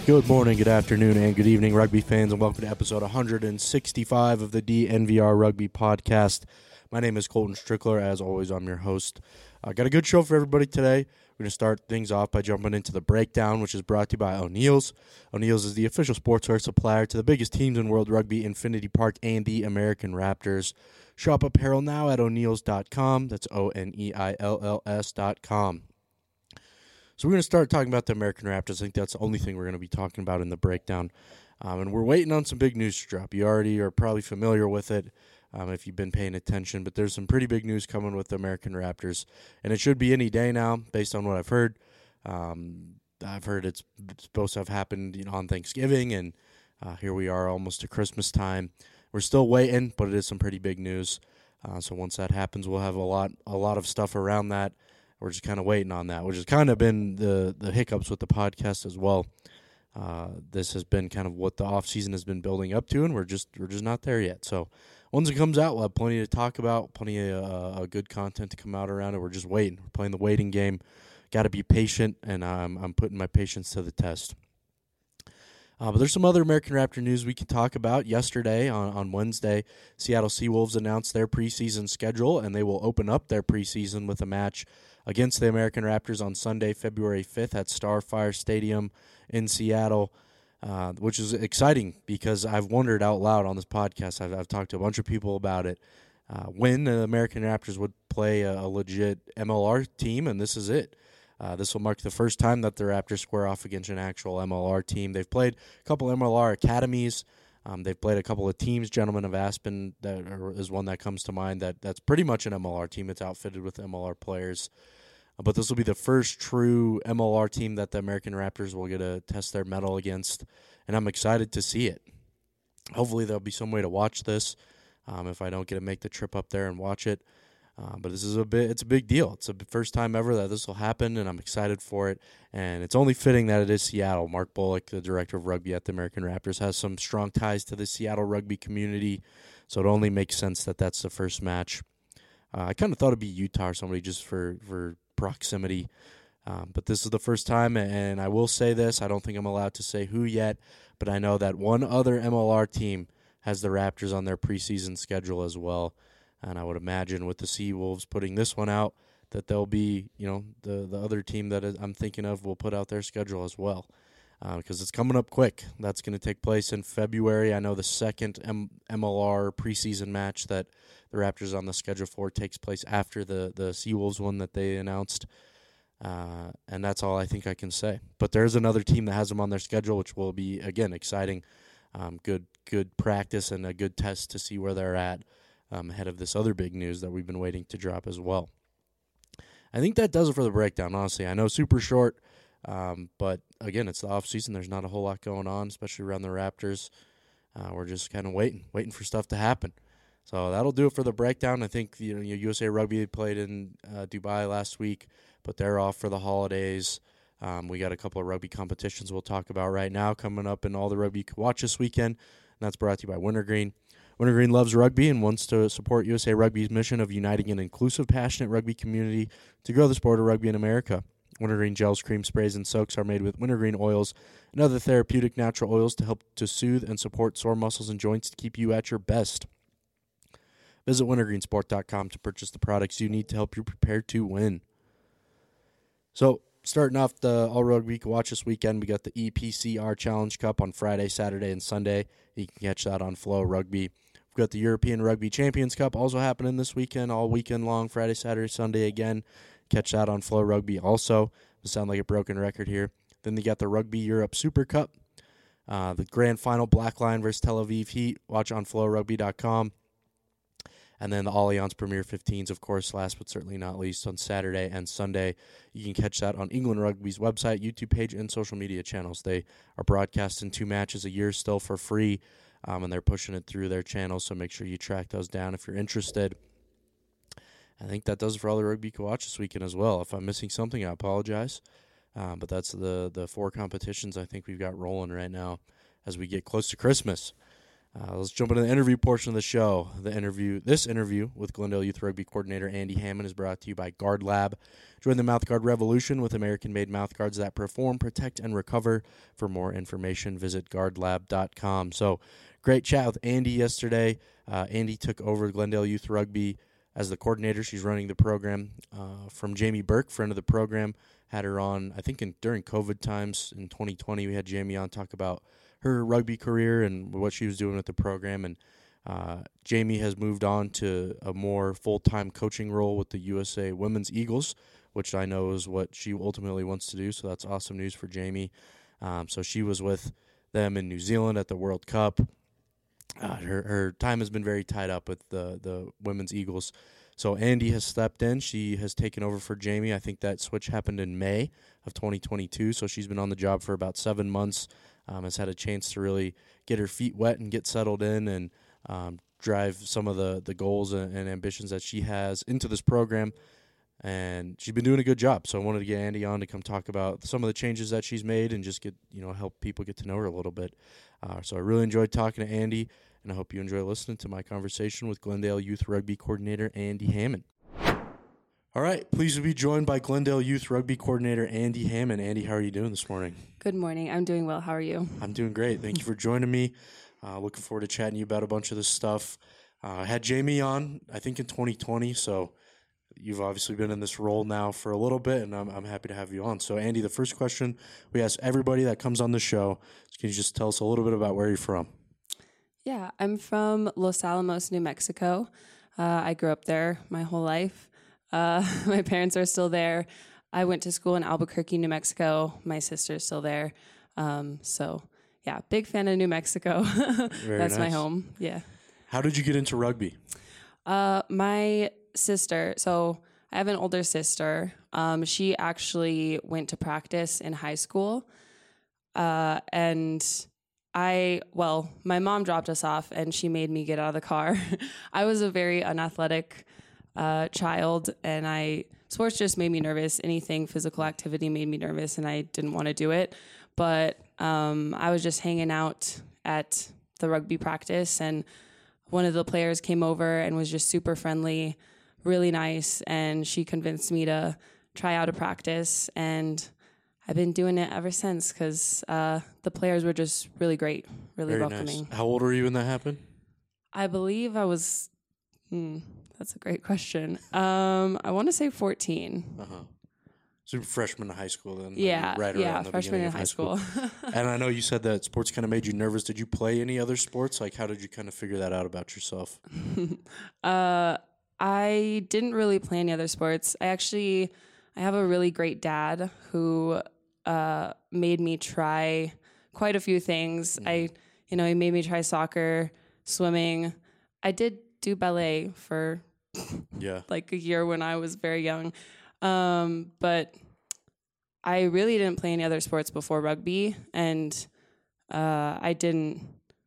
Good morning, good afternoon, and good evening, rugby fans, and welcome to episode 165 of the DNVR Rugby Podcast. My name is Colton Strickler. As always, I'm your host. I got a good show for everybody today. We're going to start things off by jumping into the breakdown, which is brought to you by O'Neill's. O'Neill's is the official sportswear supplier to the biggest teams in world rugby, Infinity Park and the American Raptors. Shop apparel now at O'Neills.com. That's Oneills.com. So we're going to start talking about the American Raptors. I think that's the only thing we're going to be talking about in the breakdown. And we're waiting on some big news to drop. You already are probably familiar with it if you've been paying attention. But there's some pretty big news coming with the American Raptors. And it should be any day now, based on what I've heard. I've heard it's supposed to have happened on Thanksgiving. And here we are almost to Christmas time. We're still waiting, but it is some pretty big news. So once that happens, we'll have a lot of stuff around that. We're just kind of waiting on that, which has kind of been the hiccups with the podcast as well. This has been kind of what the offseason has been building up to, and we're just not there yet. So once it comes out, we'll have plenty to talk about, plenty of good content to come out around it. We're just waiting. We're playing the waiting game. Got to be patient, and I'm putting my patience to the test. But there's some other American Raptor news we can talk about. Yesterday, on Wednesday, Seattle Seawolves announced their preseason schedule, and they will open up their preseason with a match against the American Raptors on Sunday, February 5th at Starfire Stadium in Seattle, which is exciting because I've wondered out loud on this podcast. I've talked to a bunch of people about it. When the American Raptors would play a legit MLR team, and this is it. This will mark the first time that the Raptors square off against an actual MLR team. They've played a couple MLR academies. They've played a couple of teams. Gentlemen of Aspen is one that comes to mind. That's pretty much an MLR team. It's outfitted with MLR players. But this will be the first true MLR team that the American Raptors will get to test their mettle against, and I'm excited to see it. Hopefully there'll be some way to watch this if I don't get to make the trip up there and watch it. But this is it's a big deal. It's the first time ever that this will happen, and I'm excited for it. And it's only fitting that it is Seattle. Mark Bullock, the director of rugby at the American Raptors, has some strong ties to the Seattle rugby community, so it only makes sense that that's the first match. I kind of thought it'd be Utah or somebody just for proximity, but this is the first time, and I will say this. I don't think I'm allowed to say who yet, but I know that one other MLR team has the Raptors on their preseason schedule as well. And I would imagine with the Seawolves putting this one out that they'll be, the other team that I'm thinking of will put out their schedule as well because it's coming up quick. That's going to take place in February. I know the second MLR preseason match that the Raptors are on the schedule for takes place after the Seawolves one that they announced. And that's all I think I can say. But there's another team that has them on their schedule, which will be, again, exciting. Good practice and a good test to see where they're at. Ahead of this other big news that we've been waiting to drop as well. I think that does it for the breakdown, honestly. I know super short, but again, it's the offseason. There's not a whole lot going on, especially around the Raptors. We're just kind of waiting for stuff to happen. So that'll do it for the breakdown. I think USA Rugby played in Dubai last week, but they're off for the holidays. We got a couple of rugby competitions we'll talk about right now coming up in all the rugby you can watch this weekend, and that's brought to you by Wintergreen. Wintergreen loves rugby and wants to support USA Rugby's mission of uniting an inclusive, passionate rugby community to grow the sport of rugby in America. Wintergreen gels, cream sprays, and soaks are made with wintergreen oils and other therapeutic natural oils to help to soothe and support sore muscles and joints to keep you at your best. Visit wintergreensport.com to purchase the products you need to help you prepare to win. So, starting off the All Rugby can watch this weekend, we got the EPCR Challenge Cup on Friday, Saturday, and Sunday. You can catch that on Flow Rugby. We've got the European Rugby Champions Cup also happening this weekend, all weekend long, Friday, Saturday, Sunday again. Catch that on Flow Rugby also. It'll sound like a broken record here. Then they got the Rugby Europe Super Cup. The grand final, Black Lion versus Tel Aviv Heat. Watch on flowrugby.com. And then the Allianz Premier 15s, of course, last but certainly not least, on Saturday and Sunday. You can catch that on England Rugby's website, YouTube page, and social media channels. They are broadcasting 2 matches a year still for free, and they're pushing it through their channels, so make sure you track those down if you're interested. I think that does it for all the rugby you can watch this weekend as well. If I'm missing something, I apologize. But that's the 4 competitions I think we've got rolling right now as we get close to Christmas. Let's jump into the interview portion of the show. This interview with Glendale Youth Rugby Coordinator Andy Hammond is brought to you by Guard Lab. Join the mouthguard revolution with American-made mouthguards that perform, protect, and recover. For more information, visit guardlab.com. So, great chat with Andy yesterday. Andy took over Glendale Youth Rugby as the coordinator. She's running the program from Jamie Burke, friend of the program. Had her on, I think, during COVID times in 2020. We had Jamie on talk about her rugby career and what she was doing with the program. And Jamie has moved on to a more full-time coaching role with the USA Women's Eagles, which I know is what she ultimately wants to do. So that's awesome news for Jamie. So she was with them in New Zealand at the World Cup. Her time has been very tied up with the Women's Eagles. So Andy has stepped in. She has taken over for Jamie. I think that switch happened in May of 2022. So she's been on the job for about 7 months. Has had a chance to really get her feet wet and get settled in and drive some of the goals and ambitions that she has into this program. And she's been doing a good job. So I wanted to get Andy on to come talk about some of the changes that she's made and just help people get to know her a little bit. So I really enjoyed talking to Andy, and I hope you enjoy listening to my conversation with Glendale Youth Rugby Coordinator Andy Hammond. All right, pleased to be joined by Glendale Youth Rugby Coordinator Andy Hammond. Andy, how are you doing this morning? Good morning. I'm doing well. How are you? I'm doing great. Thank you for joining me. Looking forward to chatting to you about a bunch of this stuff. I had Jamie on, I think, in 2020, so you've obviously been in this role now for a little bit, and I'm happy to have you on. So, Andy, the first question we ask everybody that comes on the show is, can you just tell us a little bit about where you're from? Yeah, I'm from Los Alamos, New Mexico. I grew up there my whole life. My parents are still there. I went to school in Albuquerque, New Mexico. My sister's still there. So, yeah, big fan of New Mexico. That's nice. My home. Yeah. How did you get into rugby? My sister, so I have an older sister. She actually went to practice in high school. And my mom dropped us off and she made me get out of the car. I was a very unathletic child, and sports just made me nervous. Anything physical activity made me nervous, and I didn't want to do it. But I was just hanging out at the rugby practice, and one of the players came over and was just super friendly, really nice, and she convinced me to try out a practice, and I've been doing it ever since because the players were just really great, really Very welcoming. Nice. How old were you when that happened? I believe I was... that's a great question. I want to say 14. Uh-huh. So freshman in high school then? Yeah, right around the freshman in of high school. And I know you said that sports kind of made you nervous. Did you play any other sports? Like, how did you kind of figure that out about yourself? I didn't really play any other sports. I have a really great dad who made me try quite a few things. He made me try soccer, swimming. I did do ballet for like a year when I was very young. But I really didn't play any other sports before rugby, and I didn't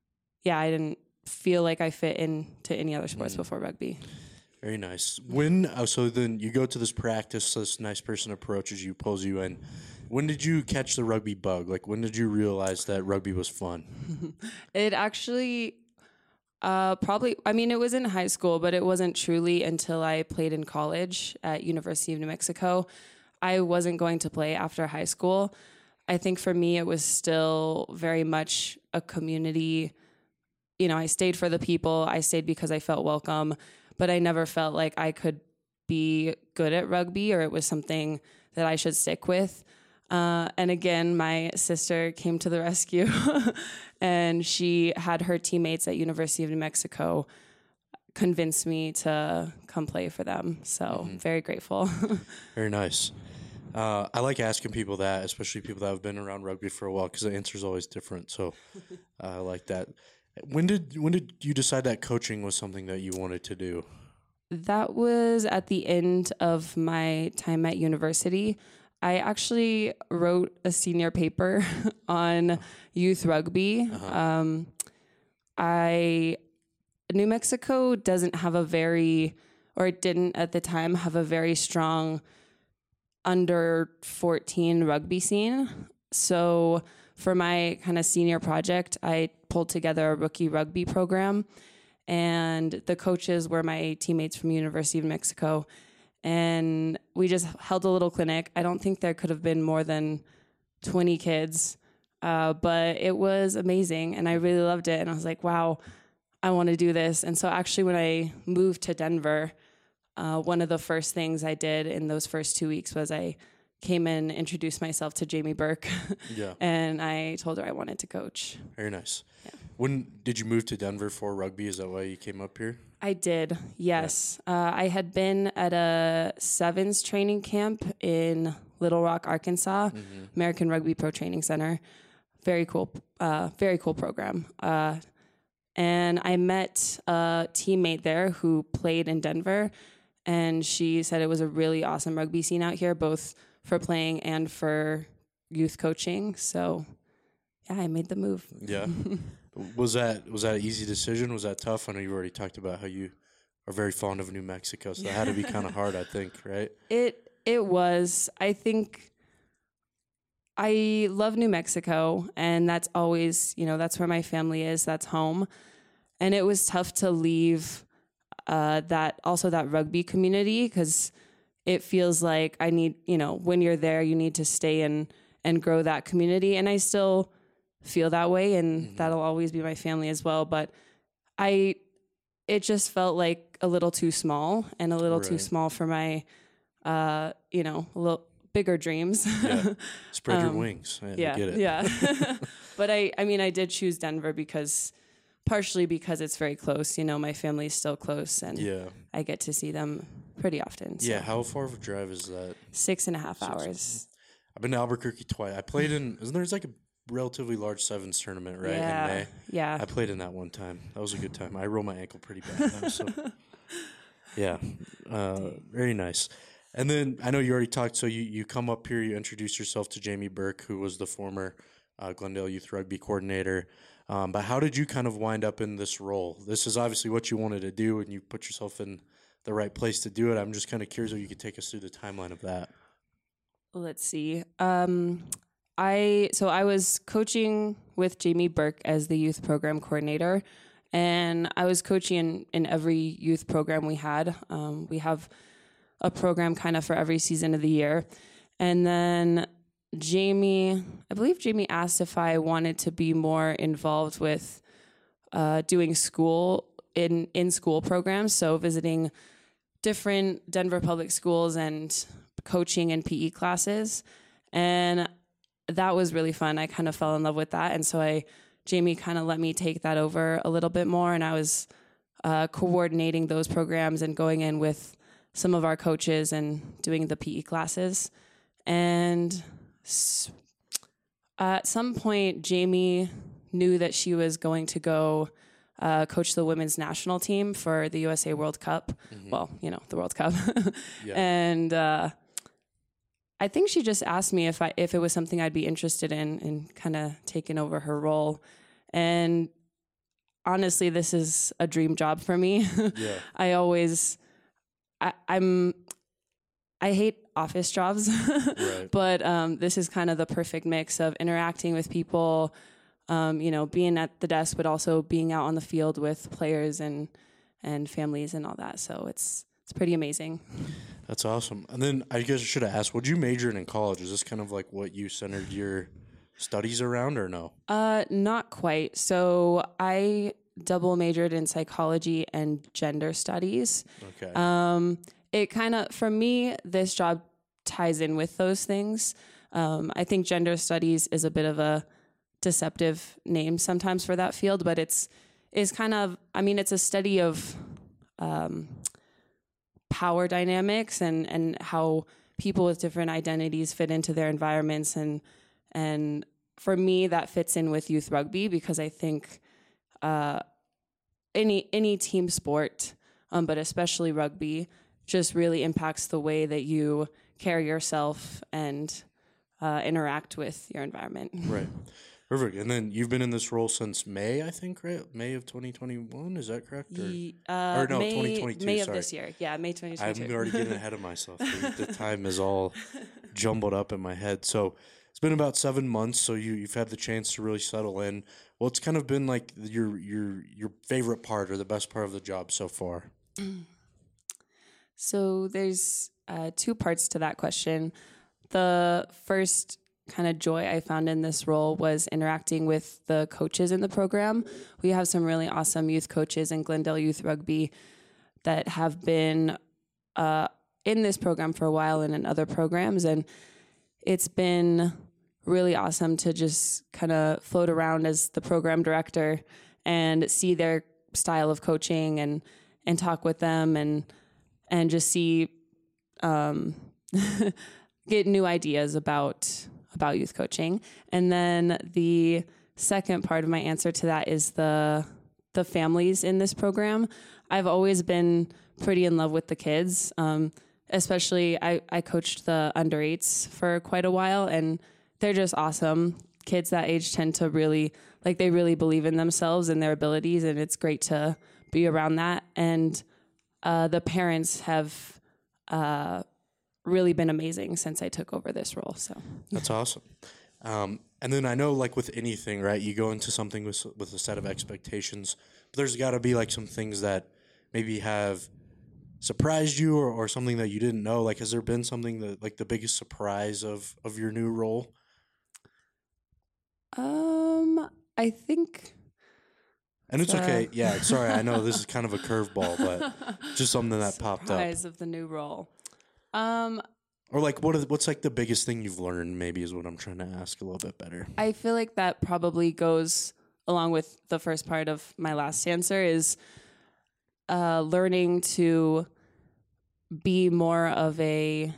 feel like I fit into any other sports before rugby. Very nice. So then you go to this practice, this nice person approaches you, pulls you in. When did you catch the rugby bug? Like, when did you realize that rugby was fun? It actually... it was in high school, but it wasn't truly until I played in college at University of New Mexico. I wasn't going to play after high school. I think for me, it was still very much a community. I stayed for the people. I stayed because I felt welcome, but I never felt like I could be good at rugby or it was something that I should stick with. And again, my sister came to the rescue and she had her teammates at University of New Mexico convince me to come play for them. So very grateful. Very nice. I like asking people that, especially people that have been around rugby for a while, because the answer is always different. So I like that. When did you decide that coaching was something that you wanted to do? That was at the end of my time at university. I actually wrote a senior paper on youth rugby. New Mexico doesn't have it didn't at the time have a very strong under 14 rugby scene. So for my kind of senior project, I pulled together a rookie rugby program, and the coaches were my teammates from University of Mexico. And we just held a little clinic. I don't think there could have been more than 20 kids, but it was amazing, and I really loved it. And I was like, wow, I want to do this. And so actually when I moved to Denver, one of the first things I did in those first 2 weeks was I came in, introduced myself to Jamie Burke, Yeah. and I told her I wanted to coach. Very nice. Yeah. When did you move to Denver for rugby? Is that why you came up here? I did, yes. I had been at a sevens training camp in Little Rock, Arkansas, American Rugby Pro Training Center. Very cool program. And I met a teammate there who played in Denver, and she said it was a really awesome rugby scene out here, both for playing and for youth coaching. So, yeah, I made the move. Yeah. Was that an easy decision? Was that tough? I know you already talked about how you are very fond of New Mexico, so that had to be kind of hard, I think, right? It was. I think I love New Mexico, and that's always, that's where my family is. That's home. And it was tough to leave that rugby community, because it feels like I need, when you're there, you need to stay and grow that community. And I still feel that way, and that'll always be my family as well. But it just felt like a little too small, and a little too small for my, a little bigger dreams. Yeah. Spread your wings. I get it. Yeah. But I did choose Denver partially because it's very close. My family's still close, and I get to see them pretty often. So. Yeah. How far of a drive is that? 6.5 hours. I've been to Albuquerque twice. I played there's like a relatively large sevens tournament, right? Yeah. In May. Yeah. I played in that one time. That was a good time. I rolled my ankle pretty bad though, so yeah. Very nice. And then I know you already talked, so you come up here, you introduce yourself to Jamie Burke, who was the former Glendale Youth Rugby coordinator. But how did you kind of wind up in this role? This is obviously what you wanted to do, and you put yourself in the right place to do it. I'm just kind of curious if you could take us through the timeline of that. Let's see. I was coaching with Jamie Burke as the youth program coordinator, and I was coaching in every youth program we had. We have a program kind of for every season of the year. And then I believe Jamie asked if I wanted to be more involved with doing school in school programs, so visiting different Denver public schools and coaching in PE classes. And that was really fun. I kind of fell in love with that. And so Jamie kind of let me take that over a little bit more. And I was coordinating those programs and going in with some of our coaches and doing the PE classes. And at some point, Jamie knew that she was going to go coach the women's national team for the USA World Cup. Mm-hmm. Well, the World Cup. Yeah. And I think she just asked me if it was something I'd be interested in kind of taking over her role. And honestly, this is a dream job for me. Yeah. I hate office jobs, right. But this is kind of the perfect mix of interacting with people, being at the desk, but also being out on the field with players and families and all that. So it's pretty amazing. That's awesome. And then I guess I should have asked, what did you major in college? Is this kind of like what you centered your studies around, or no? Not quite. So I double majored in psychology and gender studies. Okay. It kind of, for me, this job ties in with those things. I think gender studies is a bit of a deceptive name sometimes for that field, but it's kind of, it's a study of power dynamics and how people with different identities fit into their environments. And for me, that fits in with youth rugby, because I think any team sport, but especially rugby, just really impacts the way that you carry yourself and interact with your environment. Right. Perfect. And then you've been in this role since May, I think, right? May of 2021, is that correct? Or no, 2022, May of this year. Yeah, May 2022. I'm already getting ahead of myself. The time is all jumbled up in my head. So it's been about 7 months, so you've had the chance to really settle in. What's kind of been like your favorite part or the best part of the job so far? So there's two parts to that question. The first kind of joy I found in this role was interacting with the coaches in the program. We have some really awesome youth coaches in Glendale Youth Rugby that have been in this program for a while and in other programs. And it's been really awesome to just kind of float around as the program director and see their style of coaching and talk with them and just see get new ideas about youth coaching. And then the second part of my answer to that is the families in this program. I've always been pretty in love with the kids. Especially I coached the under 8s for quite a while, and they're just awesome. Kids that age tend to really, they really believe in themselves and their abilities, and it's great to be around that. And the parents have really been amazing since I took over this role. So that's awesome. And then I know, with anything, right, you go into something with a set of expectations, but there's got to be some things that maybe have surprised you or something that you didn't know. Has there been something that the biggest surprise of your new role? I think. And it's okay. Yeah, sorry. I know this is kind of a curveball, but just something that popped up. Surprise of the new role. Or what's the biggest thing you've learned, maybe, is what I'm trying to ask a little bit better. I feel like that probably goes along with the first part of my last answer is learning to be more of a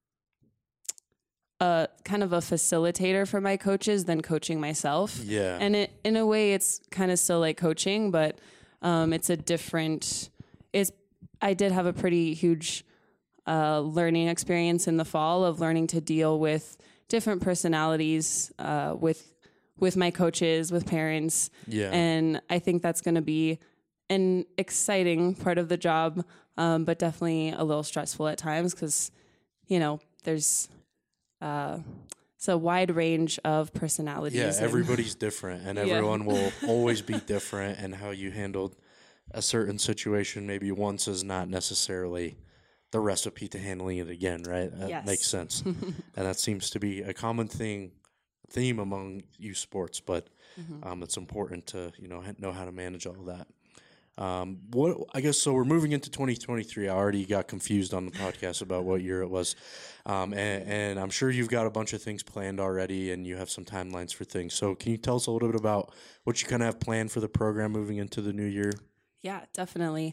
kind of a facilitator for my coaches than coaching myself. Yeah. And in a way, it's kind of still like coaching, but it's a different. I did have a pretty huge learning experience in the fall of learning to deal with different personalities with my coaches, with parents. Yeah. And I think that's going to be an exciting part of the job, but definitely a little stressful at times because, there's it's a wide range of personalities. Yeah, everybody's different, and everyone will always be different, and how you handled a certain situation maybe once is not necessarily the recipe to handling it again, right? That makes sense. And that seems to be a common theme among youth sports, but it's important to, know how to manage all that. I guess so we're moving into 2023. I already got confused on the podcast about what year it was. And I'm sure you've got a bunch of things planned already and you have some timelines for things. So can you tell us a little bit about what you kind of have planned for the program moving into the new year? Yeah, definitely.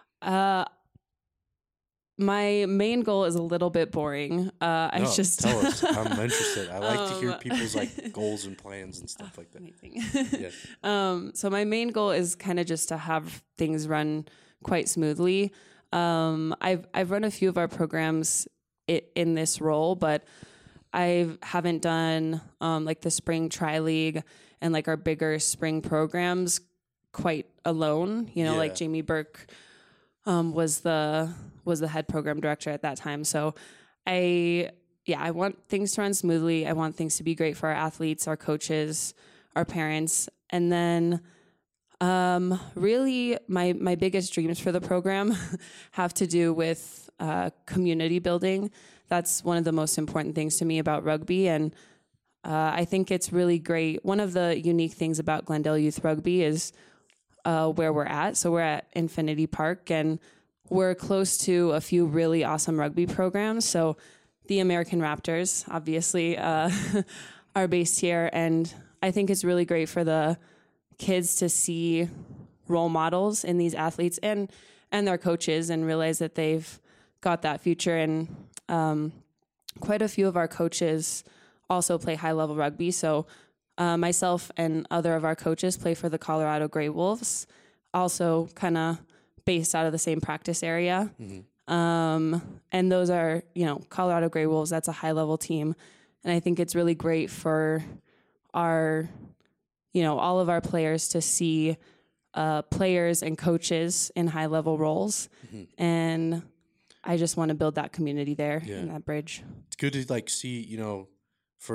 My main goal is a little bit boring. Tell us. I'm interested. I like to hear people's goals and plans and stuff like that. Amazing. Yeah. So my main goal is kind of just to have things run quite smoothly. I've run a few of our programs in this role, but I haven't done the spring tri-league and our bigger spring programs quite alone. Like Jamie Burke was the head program director at that time. So I want things to run smoothly. I want things to be great for our athletes, our coaches, our parents. And then really my biggest dreams for the program have to do with community building. That's one of the most important things to me about rugby. And I think it's really great. One of the unique things about Glendale Youth Rugby is where we're at. So we're at Infinity Park, and we're close to a few really awesome rugby programs. So the American Raptors, obviously, are based here. And I think it's really great for the kids to see role models in these athletes and their coaches and realize that they've got that future. And quite a few of our coaches also play high-level rugby. So myself and other of our coaches play for the Colorado Grey Wolves, also kind of based out of the same practice area. Mm-hmm. And those are, Colorado Grey Wolves, that's a high-level team. And I think it's really great for our, all of our players to see players and coaches in high-level roles. Mm-hmm. And I just want to build that community there and that bridge. It's good to see, for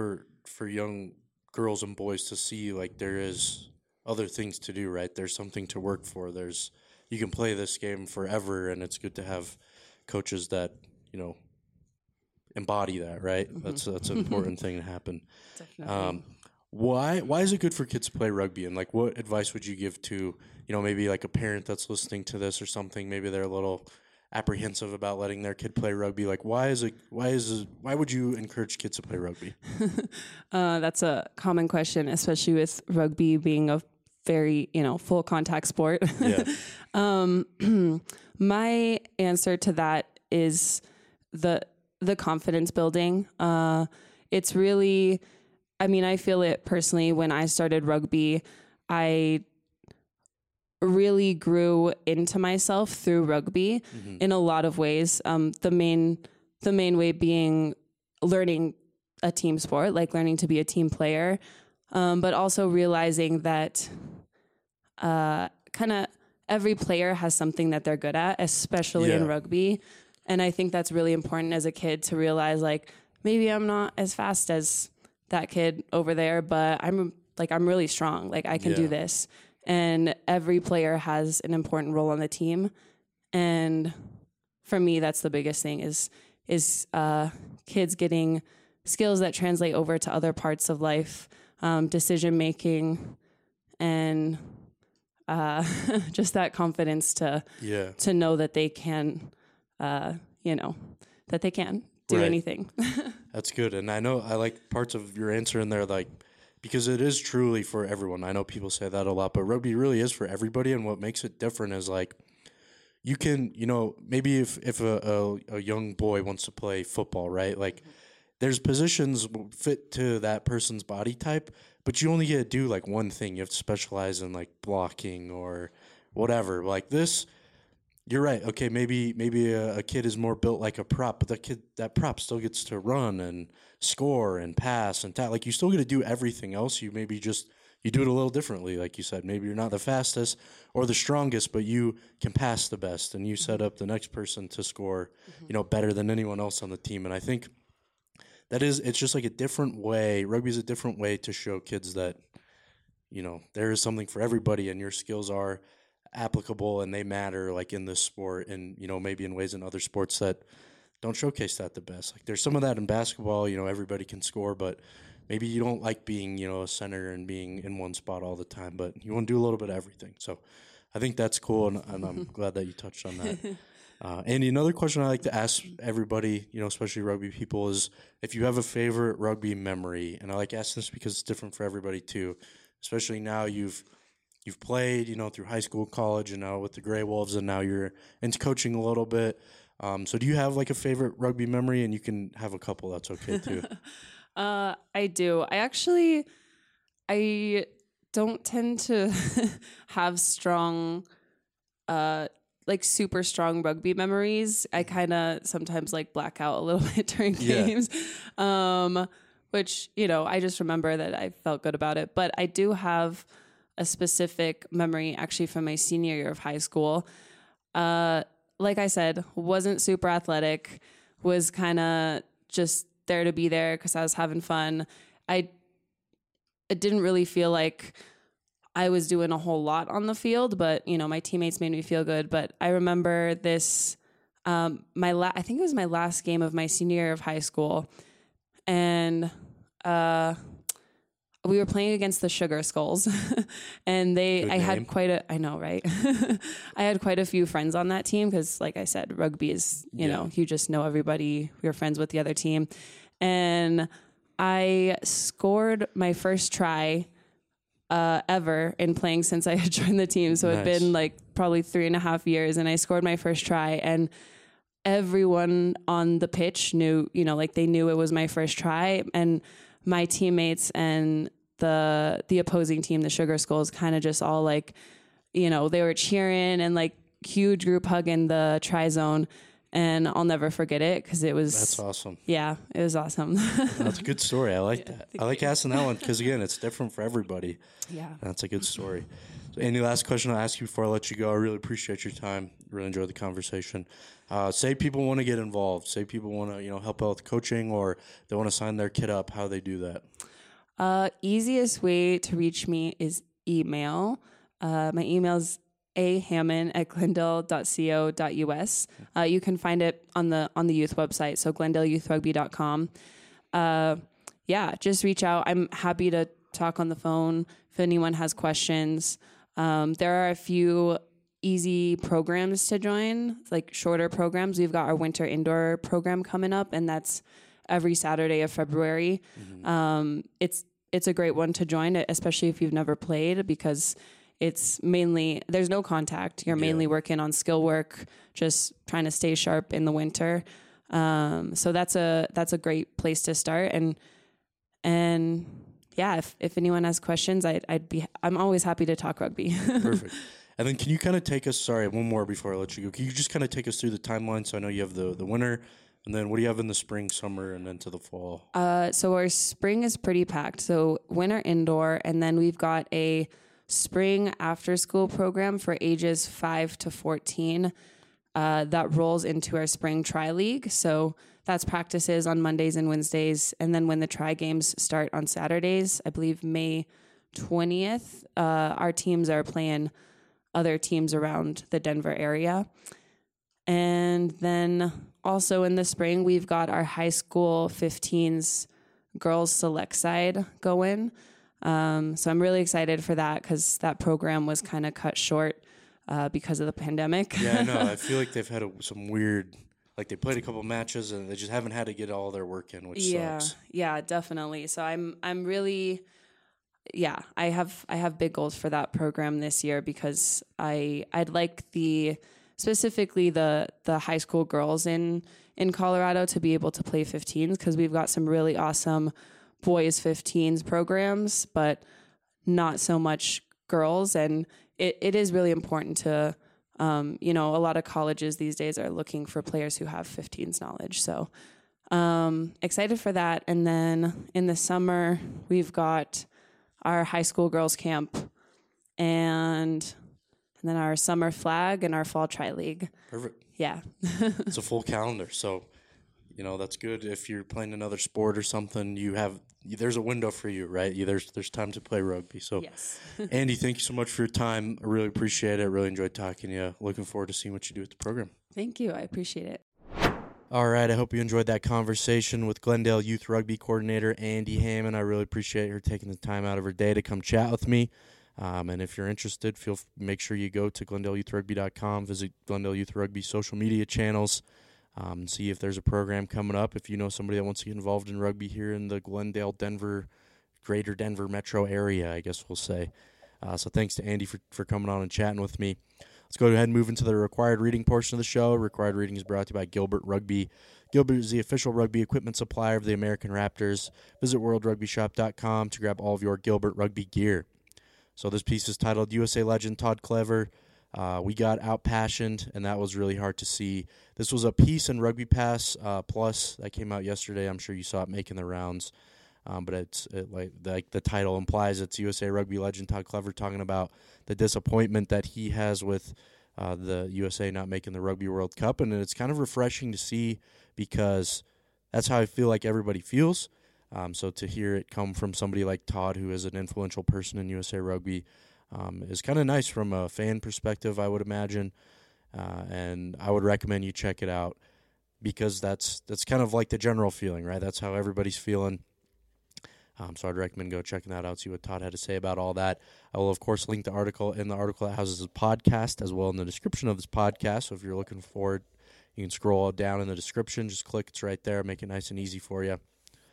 for young girls and boys to see like there is other things to do, right? There's something to work for. There's you can play this game forever, and it's good to have coaches that embody that, right? That's an important thing to happen. Definitely. Why is it good for kids to play rugby? And like, what advice would you give to maybe like a parent that's listening to this or something? Maybe they're a little apprehensive about letting their kid play rugby. Like, why would you encourage kids to play rugby? That's a common question, especially with rugby being a very, full contact sport. Yeah. My answer to that is the confidence building. It's really, I feel it personally when I started rugby. I really grew into myself through rugby in a lot of ways. The main way being learning a team sport, like learning to be a team player, but also realizing that kind of every player has something that they're good at, especially in rugby. And I think that's really important as a kid to realize, like, maybe I'm not as fast as that kid over there, but I'm really strong. Like, I can do this. And every player has an important role on the team. And for me, that's the biggest thing is kids getting skills that translate over to other parts of life, decision making, and just that confidence to know that they can, that they can do anything. That's good. And I know I like parts of your answer in there, like, because it is truly for everyone. I know people say that a lot, but rugby really is for everybody. And what makes it different is like, you can, maybe if a young boy wants to play football, right? Like, there's positions fit to that person's body type, but you only get to do like one thing. You have to specialize in like blocking or whatever. Like this, you're right. Okay, maybe a kid is more built like a prop, but that prop still gets to run and score and pass and like you still get to do everything else. You maybe just you do it a little differently, like you said. Maybe you're not the fastest or the strongest, but you can pass the best, and you set up the next person to score, better than anyone else on the team. And I think it's just like a different way. Rugby is a different way to show kids that, there is something for everybody, and your skills are applicable and they matter, like in this sport, and maybe in ways in other sports that don't showcase that the best. Like there's some of that in basketball. Everybody can score, but maybe you don't like being a center and being in one spot all the time, but you want to do a little bit of everything. So I think that's cool, and I'm glad that you touched on that. And another question I like to ask everybody, especially rugby people, is if you have a favorite rugby memory. And I like asking this because it's different for everybody too, especially now you've played, through high school, college, and now with the Grey Wolves, and now you're into coaching a little bit. So do you have like a favorite rugby memory? And you can have a couple, that's okay too. I do. I don't tend to have strong, super strong rugby memories. I kind of sometimes like black out a little bit during games, which, I just remember that I felt good about it. But I do have a specific memory actually from my senior year of high school. Like I said, wasn't super athletic, was kind of just there to be there because I was having fun. It didn't really feel like I was doing a whole lot on the field, but my teammates made me feel good. But I remember this, I think it was my last game of my senior year of high school, and we were playing against the Sugar Skulls, and I had quite a few friends on that team because, like I said, rugby is, you just know everybody. You're friends with the other team. And I scored my first try ever in playing since I had joined the team. So it'd been like probably 3.5 years, and I scored my first try, and everyone on the pitch knew, they knew it was my first try, and my teammates and the opposing team, the Sugar Skulls, kind of just all like, they were cheering and like huge group hug in the try zone. And I'll never forget it because that's awesome. Yeah, it was awesome. That's a good story. I like that. I like asking that one because, again, it's different for everybody. Yeah. That's a good story. So, any last question I'll ask you before I let you go? I really appreciate your time. Really enjoyed the conversation. Say people want to get involved. Say people want to, help out with coaching, or they want to sign their kid up. How they do that? Easiest way to reach me is email. My email is ahammond@glendale.co.us. You can find it on the youth website, so glendaleyouithrugby.com. Just reach out. I'm happy to talk on the phone if anyone has questions. There are a few easy programs to join, like shorter programs. We've got our winter indoor program coming up, and that's every Saturday of February. Mm-hmm. It's a great one to join, especially if you've never played, because it's mainly, there's no contact. You're mainly working on skill work, just trying to stay sharp in the winter. So that's a great place to start. And yeah, if anyone has questions, I'm always happy to talk rugby. Perfect. And then can you kind of take us, sorry, one more before I let you go. Can you just kind of take us through the timeline? So I know you have the winter, and then what do you have in the spring, summer, and then to the fall? So our spring is pretty packed. So winter indoor, and then we've got a spring after school program for ages 5 to 14 that rolls into our spring tri-league. So that's practices on Mondays and Wednesdays. And then when the tri games start on Saturdays, I believe May 20th, our teams are playing other teams around the Denver area. And then also in the spring, we've got our high school 15s girls select side going. So I'm really excited for that because that program was kind of cut short because of the pandemic. Yeah, I know. I feel like they've had some weird, like they played a couple matches and they just haven't had to get all their work in, which sucks. Yeah, definitely. So I'm really, I have big goals for that program this year because I'd like specifically the high school girls in Colorado to be able to play 15s because we've got some really awesome boys 15s programs, but not so much girls. And it is really important to, a lot of colleges these days are looking for players who have 15s knowledge. So excited for that. And then in the summer, we've got our high school girls camp and then our summer flag and our fall tri-league. Perfect. Yeah. It's a full calendar. So, that's good. If you're playing another sport or something, there's a window for you, right? There's time to play rugby. So, yes. Andy, thank you so much for your time. I really appreciate it. I really enjoyed talking to you. Looking forward to seeing what you do with the program. Thank you. I appreciate it. All right. I hope you enjoyed that conversation with Glendale Youth Rugby Coordinator Andy Hammond. I really appreciate her taking the time out of her day to come chat with me. And if you're interested, make sure you go to glendaleyouithrugby.com, visit Glendale Youth Rugby social media channels, see if there's a program coming up. If you know somebody that wants to get involved in rugby here in the Glendale, greater Denver metro area, I guess we'll say. So thanks to Andy for coming on and chatting with me. Let's go ahead and move into the required reading portion of the show. Required reading is brought to you by Gilbert Rugby. Gilbert is the official rugby equipment supplier of the American Raptors. Visit worldrugbyshop.com to grab all of your Gilbert Rugby gear. So this piece is titled USA Legend Todd Clever. We got out-passioned, and that was really hard to see. This was a piece in Rugby Pass Plus that came out yesterday. I'm sure you saw it making the rounds. But like the title implies, it's USA Rugby legend Todd Clever talking about the disappointment that he has with the USA not making the Rugby World Cup. And it's kind of refreshing to see because that's how I feel like everybody feels. So to hear it come from somebody like Todd, who is an influential person in USA Rugby, is kind of nice from a fan perspective, I would imagine. And I would recommend you check it out because that's kind of like the general feeling, right? That's how everybody's feeling. So I'd recommend go checking that out, see what Todd had to say about all that. I will, of course, link the article in the article that houses the podcast as well in the description of this podcast. So if you're looking forward, you can scroll down in the description. Just click. It's right there. Make it nice and easy for you.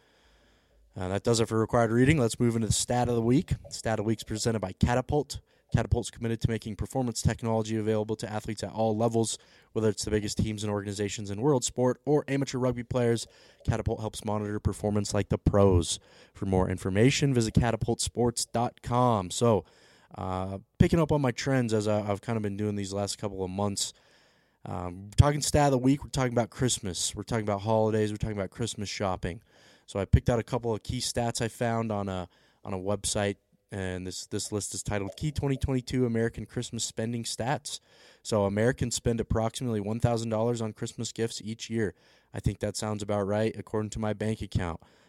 That does it for required reading. Let's move into the stat of the week. Stat of the week is presented by Catapult. Catapult's committed to making performance technology available to athletes at all levels, whether it's the biggest teams and organizations in world sport or amateur rugby players. Catapult helps monitor performance like the pros. For more information, visit catapultsports.com. So, picking up on my trends as I've kind of been doing these last couple of months, talking stat of the week, we're talking about Christmas. We're talking about holidays. We're talking about Christmas shopping. So I picked out a couple of key stats I found on a website. And this list is titled Key 2022 American Christmas Spending Stats. So Americans spend approximately $1,000 on Christmas gifts each year. I think that sounds about right according to my bank account.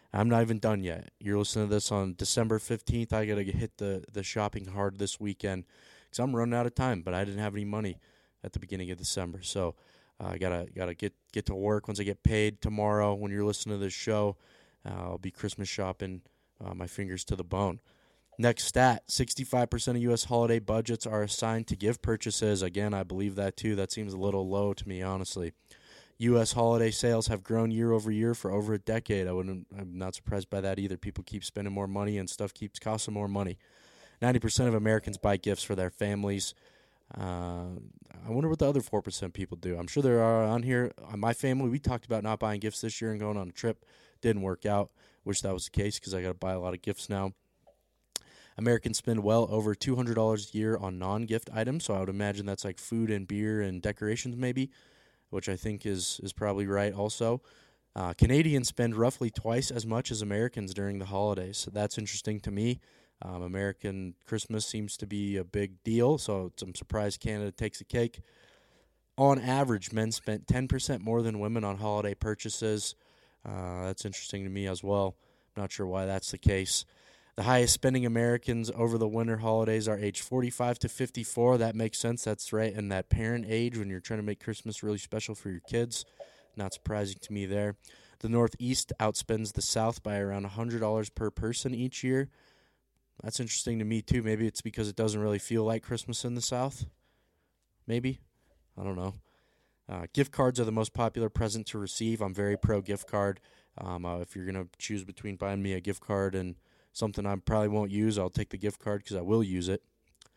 I'm not even done yet. You're listening to this on December 15th. I got to hit the shopping hard this weekend because I'm running out of time, but I didn't have any money at the beginning of December. So I gotta get to work once I get paid tomorrow. When you're listening to this show, I'll be Christmas shopping my fingers to the bone. Next stat, 65% of U.S. holiday budgets are assigned to gift purchases. Again, I believe that too. That seems a little low to me, honestly. U.S. holiday sales have grown year over year for over a decade. I'm not surprised by that either. People keep spending more money and stuff keeps costing more money. 90% of Americans buy gifts for their families. I wonder what the other 4% people do. I'm sure there are on here. On my family, we talked about not buying gifts this year and going on a trip. Didn't work out. Wish that was the case because I got to buy a lot of gifts now. Americans spend well over $200 a year on non-gift items, so I would imagine that's like food and beer and decorations maybe, which I think is probably right also. Canadians spend roughly twice as much as Americans during the holidays, so that's interesting to me. American Christmas seems to be a big deal, so I'm surprised Canada takes the cake. On average, men spent 10% more than women on holiday purchases. That's interesting to me as well. Not sure why that's the case. The highest spending Americans over the winter holidays are age 45 to 54. That makes sense. That's right in that parent age when you're trying to make Christmas really special for your kids. Not surprising to me there. The Northeast outspends the South by around $100 per person each year. That's interesting to me, too. Maybe it's because it doesn't really feel like Christmas in the South. Maybe. I don't know. Gift cards are the most popular present to receive. I'm very pro gift card. If you're going to choose between buying me a gift card and something I probably won't use, I'll take the gift card because I will use it.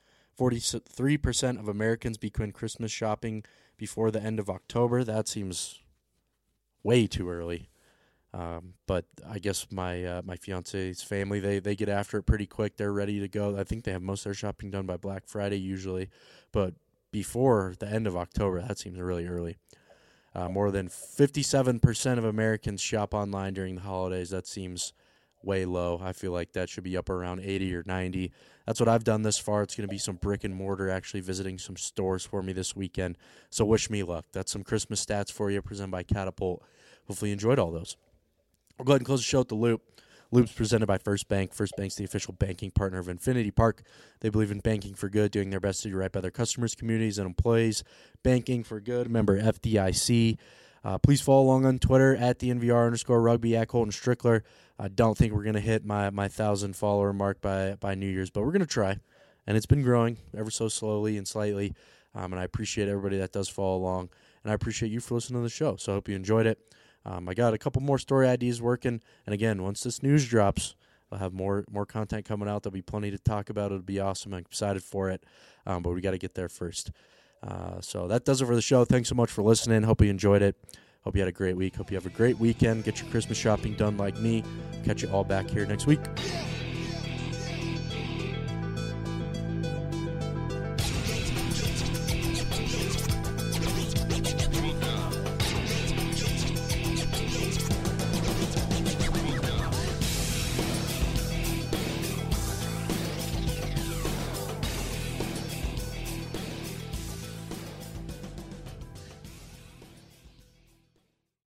43% of Americans begin Christmas shopping before the end of October. That seems way too early. But I guess my fiance's family, they get after it pretty quick. They're ready to go. I think they have most of their shopping done by Black Friday usually. But before the end of October, that seems really early. More than 57% of Americans shop online during the holidays. That seems way low. I feel like that should be up around 80 or 90. That's what I've done this far. It's going to be some brick and mortar, actually visiting some stores for me this weekend. So wish me luck. That's some Christmas stats for you, presented by Catapult. Hopefully you enjoyed all those. We'll go ahead and close the show with the Loop. Loop's presented by First Bank. First Bank's the official banking partner of Infinity Park. They believe in banking for good, doing their best to do right by their customers, communities, and employees. Banking for good. Member FDIC. Please follow along on Twitter at the @NVR_rugby at Colton Strickler. I don't think we're going to hit my 1,000 follower mark by New Year's, but we're going to try. And it's been growing ever so slowly and slightly. And I appreciate everybody that does follow along. And I appreciate you for listening to the show. So I hope you enjoyed it. I got a couple more story ideas working. And again, once this news drops, I'll have more content coming out. There'll be plenty to talk about. It'll be awesome. I'm excited for it. But we got to get there first. So that does it for the show. Thanks so much for listening. Hope you enjoyed it. Hope you had a great week. Hope you have a great weekend. Get your Christmas shopping done like me. Catch you all back here next week.